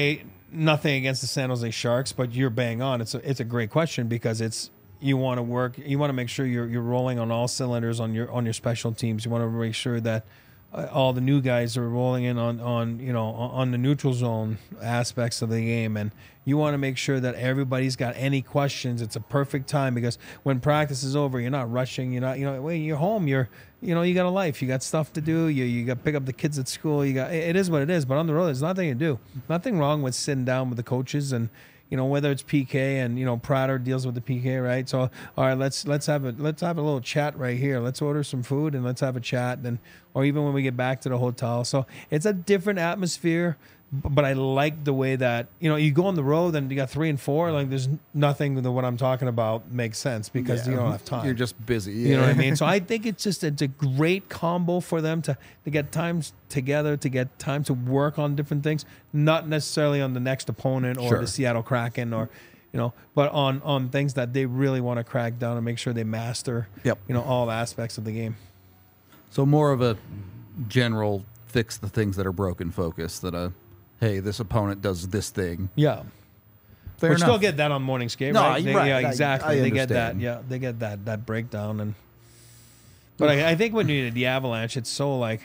nothing against the San Jose Sharks, but you're bang on. It's a great question because you want to make sure you're rolling on all cylinders on your special teams. You want to make sure that all the new guys are rolling in on the neutral zone aspects of the game, and you want to make sure that everybody's got any questions. It's a perfect time because when practice is over, you're not rushing. You're not when you're home. You got a life. You got stuff to do. You got to pick up the kids at school. It is what it is. But on the road, there's nothing to do. Nothing wrong with sitting down with the coaches and. Whether it's PK and Prater deals with the PK, right? So all right, let's have a little chat right here. Let's order some food and let's have a chat, or even when we get back to the hotel. So it's a different atmosphere, but I like the way that you go on the road and you got 3 and 4. Like there's nothing that what I'm talking about makes sense because you don't have time. You're just busy. Yeah. You know what I mean? So I think it's a great combo for them to get times together, to get time to work on different things, not necessarily on the next opponent or the Seattle Kraken or but on things that they really want to crack down and make sure they master all aspects of the game. So more of a general fix the things that are broken focus that hey, this opponent does this thing. Yeah. Fair We enough. still get that on morning skate, No, right? right. Yeah, exactly. I They get that. understand. Yeah, they get that breakdown but I think when you're the Avalanche, it's so like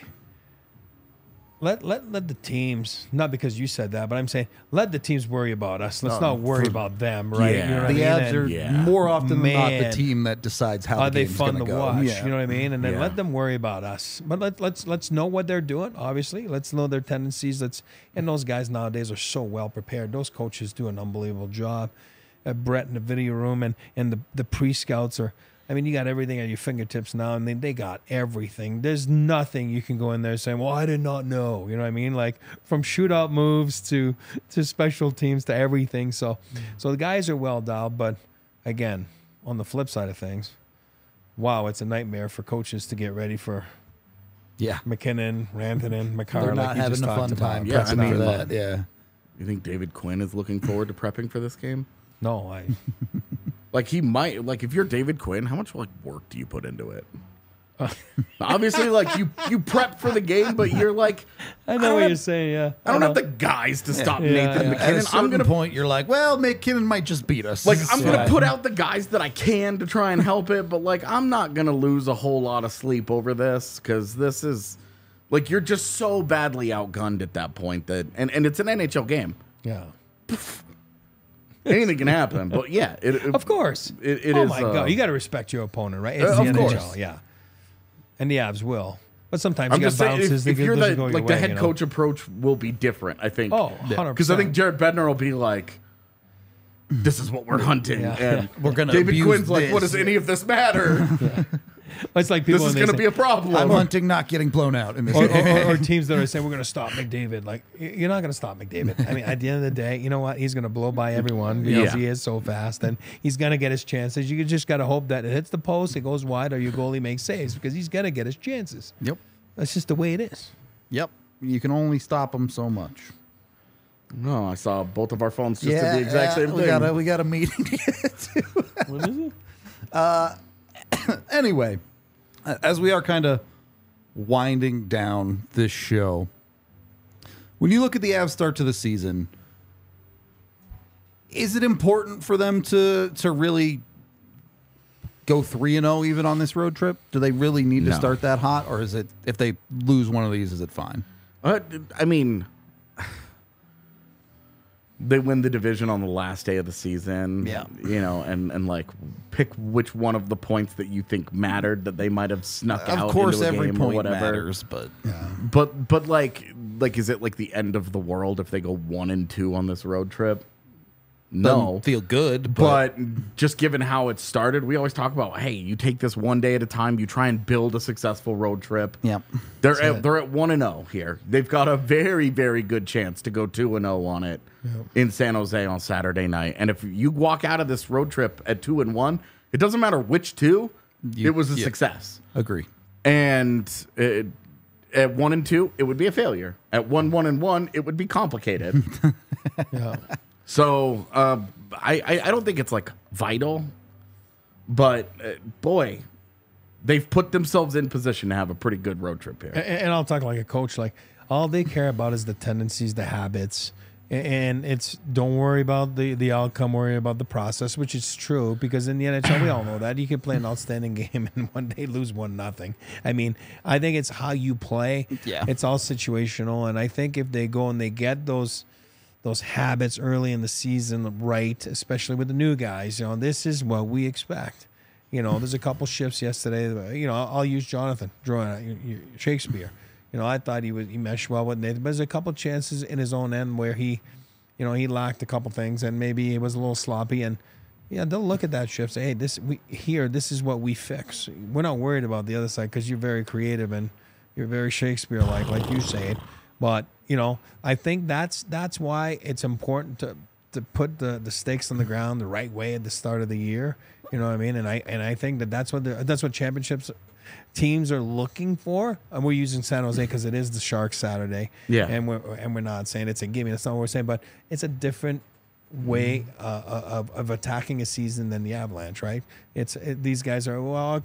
let the teams, not because you said that, but I'm saying let the teams worry about us. Let's not worry about them, right? Yeah. You know what The I mean? Avs are And more often than not the Man. team that decides how are the they game's fun going to go. watch? Yeah. You know what I mean? And then Yeah. let them worry about us. But let's know what they're doing. Obviously, let's know their tendencies. And those guys nowadays are so well prepared. Those coaches do an unbelievable job. Brett in the video room and the pre-scouts are. I mean, you got everything at your fingertips now, and they got everything. There's nothing you can go in there saying, well, I did not know. You know what I mean? Like from shootout moves to special teams to everything. So the guys are well dialed. But again, on the flip side of things, wow, it's a nightmare for coaches to get ready for Yeah. McKinnon, Rantanen, McCarr. They're not like you having just a talked fun about. time Yeah, prepping I mean, for that. Yeah. You think David Quinn is looking forward to prepping for this game? No, Like he might. Like if you're David Quinn, how much work do you put into it? Obviously, you prep for the game, but you're like, I know don't what have- you're saying. Yeah, I don't have the guys to stop Nathan yeah. At a McKinnon. certain I'm gonna point, you're like, well, McKinnon might just beat us. I'm gonna put out the guys that I can to try and help it, but I'm not gonna lose a whole lot of sleep over this because this is you're just so badly outgunned at that point that and it's an NHL game. yeah. Anything can happen, but yeah, Of course. It oh is, my God. You got to respect your opponent, right? It's the of NHL, course. yeah. And the Avs will. But sometimes I'm you got just saying, bounces. if that you're doesn't the go your the way, head coach approach will be different. I think. Oh, 100%. Because I think Jared Bednar will be like, "This is what we're hunting," Yeah, and We're gonna David abuse Quinn's like, this. "What does any of this matter? It's like people This is when they going to say- be a problem." I'm hunting, not getting blown out in this. or teams that are saying we're going to stop McDavid. Like you're not going to stop McDavid. I mean, at the end of the day, you know what? He's going to blow by everyone because Yeah. he is so fast, and he's going to get his chances. You just got to hope that it hits the post, it goes wide, or your goalie makes saves because he's going to get his chances. Yep. That's just the way it is. Yep. You can only stop them so much. No, I saw both of our phones just did the exact same thing. We got a meeting to get to. What is it? Anyway, as we are kind of winding down this show, when you look at the Avs start to the season, is it important for them to really go 3-0 even on this road trip? Do they really need to No. start that hot, or is it if they lose one of these, is it fine? I mean, they win the division on the last day of the season. Yeah. And pick which one of the points that you think mattered that they might have snuck out. Of course, into a every game or point whatever. matters, but But is it the end of the world if they go 1-2 on this road trip? No. doesn't feel good. But just given how it started, we always talk about, hey, you take this one day at a time. You try and build a successful road trip. Yep. They're at 1-0 here. They've got a very, very good chance to go 2-0 on it in San Jose on Saturday night. And if you walk out of this road trip at 2-1, it doesn't matter which two. It was a success. Agree. And at 1-2, it would be a failure. At 1-1, it would be complicated. Yeah. So I don't think it's vital, but boy, they've put themselves in position to have a pretty good road trip here. And I'll talk like a coach. Like all they care about is the tendencies, the habits, And it's don't worry about the outcome, worry about the process, which is true because in the NHL we all know that you can play an outstanding game and one day lose 1-0. I mean, I think it's how you play. Yeah. It's all situational, and I think if they go and they get those habits early in the season right, especially with the new guys, this is what we expect. There's a couple shifts yesterday. I'll use Jonathan Shakespeare. I thought he meshed well with Nathan, but there's a couple chances in his own end where he lacked a couple things and maybe he was a little sloppy. And they'll look at that shift, say, hey, this is what we fix. We're not worried about the other side because you're very creative and you're very Shakespeare-like, like you say it. But I think that's why it's important to put the stakes on the ground the right way at the start of the year. You know what I mean? And I think that's what championships teams are looking for. And we're using San Jose because it is the Sharks Saturday. Yeah. And we're not saying it's a gimme. That's not what we're saying. But it's a different way of attacking a season than the Avalanche, right? These guys are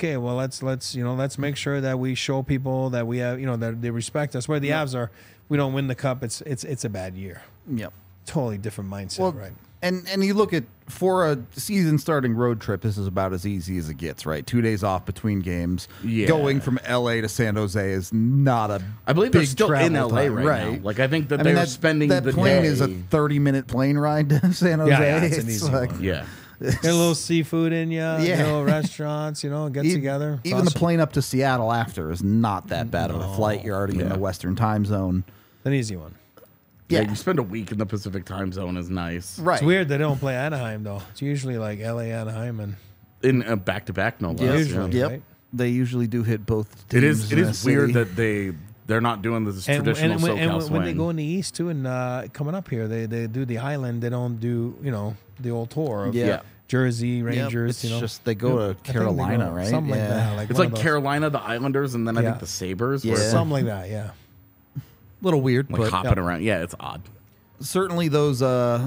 let's make sure that we show people that we have that they respect us. Where the Avs are, we don't win the cup. It's a bad year. Yep. Totally different mindset, right? And you look at, for a season starting road trip, this is about as easy as it gets, right? 2 days off between games. Yeah. Going from LA to San Jose is not a I believe they're big still in travel LA time, right now. Like I think that they're spending that the plane day. is a 30-minute plane ride to San Jose. Yeah, it's an easy one. Yeah. Get a little seafood in you, little restaurants, get together. Even the plane up to Seattle after is not that bad of a flight. You're already in the Western time zone. An easy one. Yeah, you spend a week in the Pacific time zone is nice. Right. It's weird they don't play Anaheim though. It's usually like LA, Anaheim, and In a back-to-back, no less. Usually. Yep. Right? They usually do hit both It teams. is. It is weird that they're not doing this traditional SoCal swing. when they go in the East too, and coming up here, they do the island. They don't do the old tour of Yeah. Jersey Rangers. It's just they go to I think they Carolina, go right? Something like that. It's one like of those. Carolina, the Islanders, and then I Yeah. think the Sabres. Yeah. Where it's Something like that. Yeah. little weird, like but hopping around. Yeah, it's odd. certainly those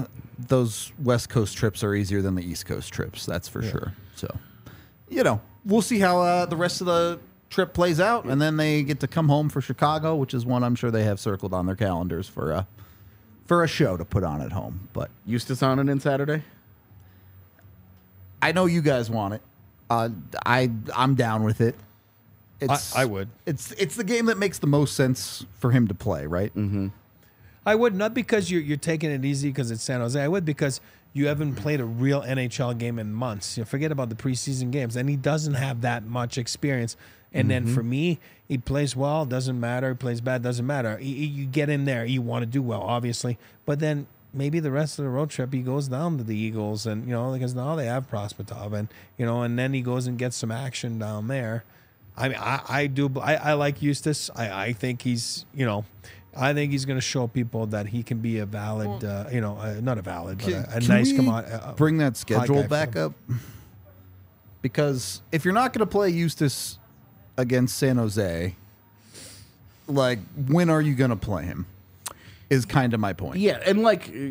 West Coast trips are easier than the East Coast trips. That's for sure. So, we'll see how the rest of the trip plays out, and then they get to come home for Chicago, which is one I'm sure they have circled on their calendars for a show to put on at home. But Eustace on it in Saturday. I know you guys want it. I'm down with it. I would. It's the game that makes the most sense for him to play, right? Mm-hmm. I would, not because you're taking it easy because it's San Jose. I would because you haven't played a real NHL game in months. Forget about the preseason games, and he doesn't have that much experience. And then for me, he plays well, doesn't matter. He plays bad, doesn't matter. You get in there, you want to do well, obviously. But then maybe the rest of the road trip, he goes down to the Eagles, and because now they have Prospetov, and and then he goes and gets some action down there. I mean, I like Eustace. I think he's I think he's going to show people that he can be a valid, not a valid, but a nice commodity. Bring that schedule guy back for up, because if you're not going to play Eustace against San Jose, like, when are you going to play him? Is kind of my point. Yeah, and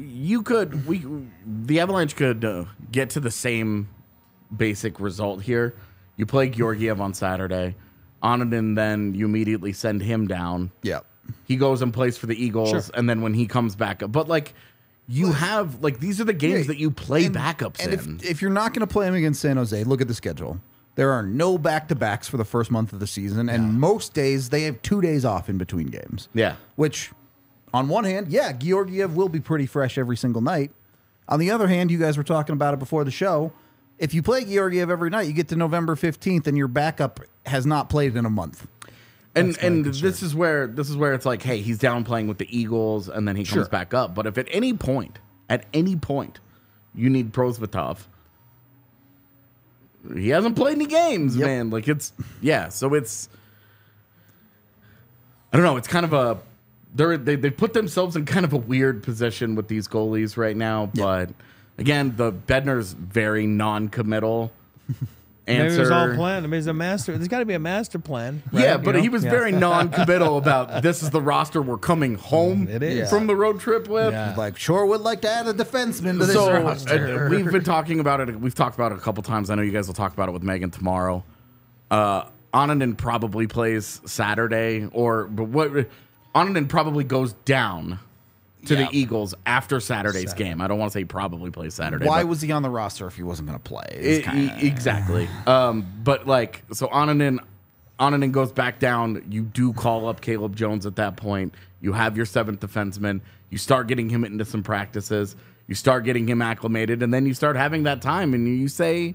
the Avalanche could get to the same basic result here. You play Georgiev on Saturday, Oninen, then you immediately send him down. Yeah. He goes and plays for the Eagles, Sure. and then when he comes back up, but you have these are the games that you play backups and in. if you're not going to play him against San Jose, look at the schedule. There are no back-to-backs for the first month of the season, and most days they have 2 days off in between games. Yeah. Which, on one hand, Georgiev will be pretty fresh every single night. On the other hand, you guys were talking about it before the show. If you play Georgiev every night, you get to November 15th, and your backup has not played in a month. And this is where it's like, hey, he's down playing with the Eagles, and then he comes back up. But if at any point, you need Prosvetov, he hasn't played any games, man. So it's, I don't know. It's kind of they put themselves in kind of a weird position with these goalies right now. But again, the Bednar's very non-committal. Maybe it was all answer. planned. I mean, there's got to be a master plan. Right? Yeah, but he was very non-committal about this is the roster we're coming home It is. from the road trip with. Yeah. Like, sure would like to add a defenseman to this So roster. we've been talking about it. We've talked about it a couple times. I know you guys will talk about it with Megan tomorrow. Oninen probably plays Saturday, Oninen probably goes down to Yeah. the Eagles after Saturday's game. I don't want to say he probably plays Saturday. Why but was he on the roster if he wasn't going to play? It's kinda- exactly. But like, so Onanen goes back down. You do call up Caleb Jones at that point. You have your seventh defenseman. You start getting him into some practices. You start getting him acclimated, and then you start having that time, and you say,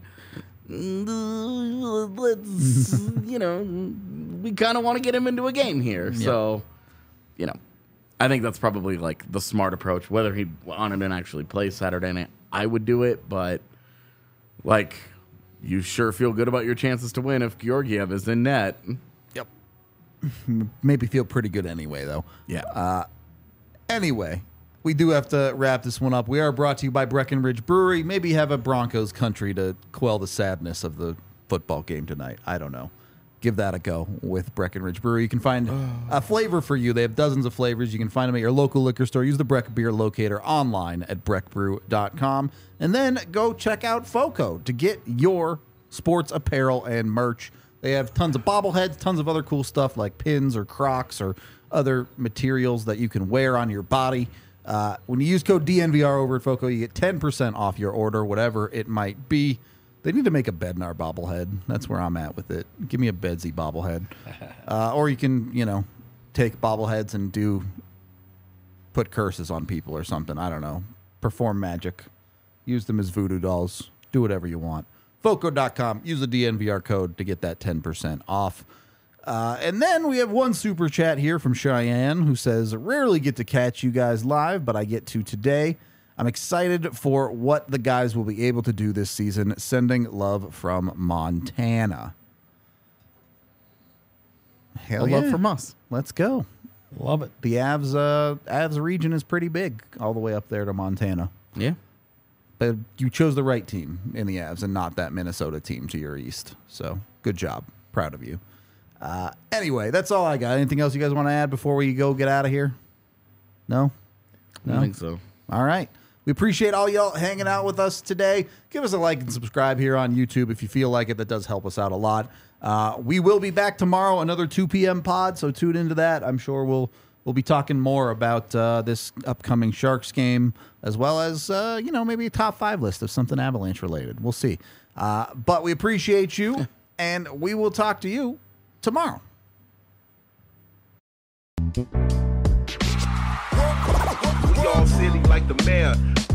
let's, we kind of want to get him into a game here. Yep. So, I think that's probably like the smart approach. Whether he Onanen actually plays Saturday night, I would do it, but like, you sure feel good about your chances to win if Georgiev is in net. Yep. Maybe feel pretty good anyway, though. Yeah. Anyway, we do have to wrap this one up. We are brought to you by Breckenridge Brewery. Maybe have a Broncos country to quell the sadness of the football game tonight. I don't know. Give that a go with Breckenridge Brewery. You can find a flavor for you. They have dozens of flavors. You can find them at your local liquor store. Use the Breck Beer Locator online at breckbrew.com. And then go check out FOCO to get your sports apparel and merch. They have tons of bobbleheads, tons of other cool stuff like pins or Crocs or other materials that you can wear on your body. When you use code DNVR over at FOCO, you get 10% off your order, whatever it might be. They need to make a Bednar bobblehead. That's where I'm at with it. Give me a Bedsy bobblehead. Or you can, take bobbleheads and put curses on people or something. I don't know. Perform magic. Use them as voodoo dolls. Do whatever you want. FOCO.com. Use the DNVR code to get that 10% off. And then we have one super chat here from Cheyenne who says, rarely get to catch you guys live, but I get to today. I'm excited for what the guys will be able to do this season. Sending love from Montana. Hell yeah. Love from us. Let's go. Love it. The Avs region is pretty big all the way up there to Montana. Yeah. But you chose the right team in the Avs and not that Minnesota team to your east. So good job. Proud of you. Anyway, that's all I got. Anything else you guys want to add before we go get out of here? No? I don't think so. All right. We appreciate all y'all hanging out with us today. Give us a like and subscribe here on YouTube if you feel like it. That does help us out a lot. We will be back tomorrow, another 2 p.m. pod, so tune into that. I'm sure we'll be talking more about this upcoming Sharks game, as well as, maybe a top 5 list of something Avalanche related. We'll see. But we appreciate you, and we will talk to you tomorrow. We all silly like the mayor.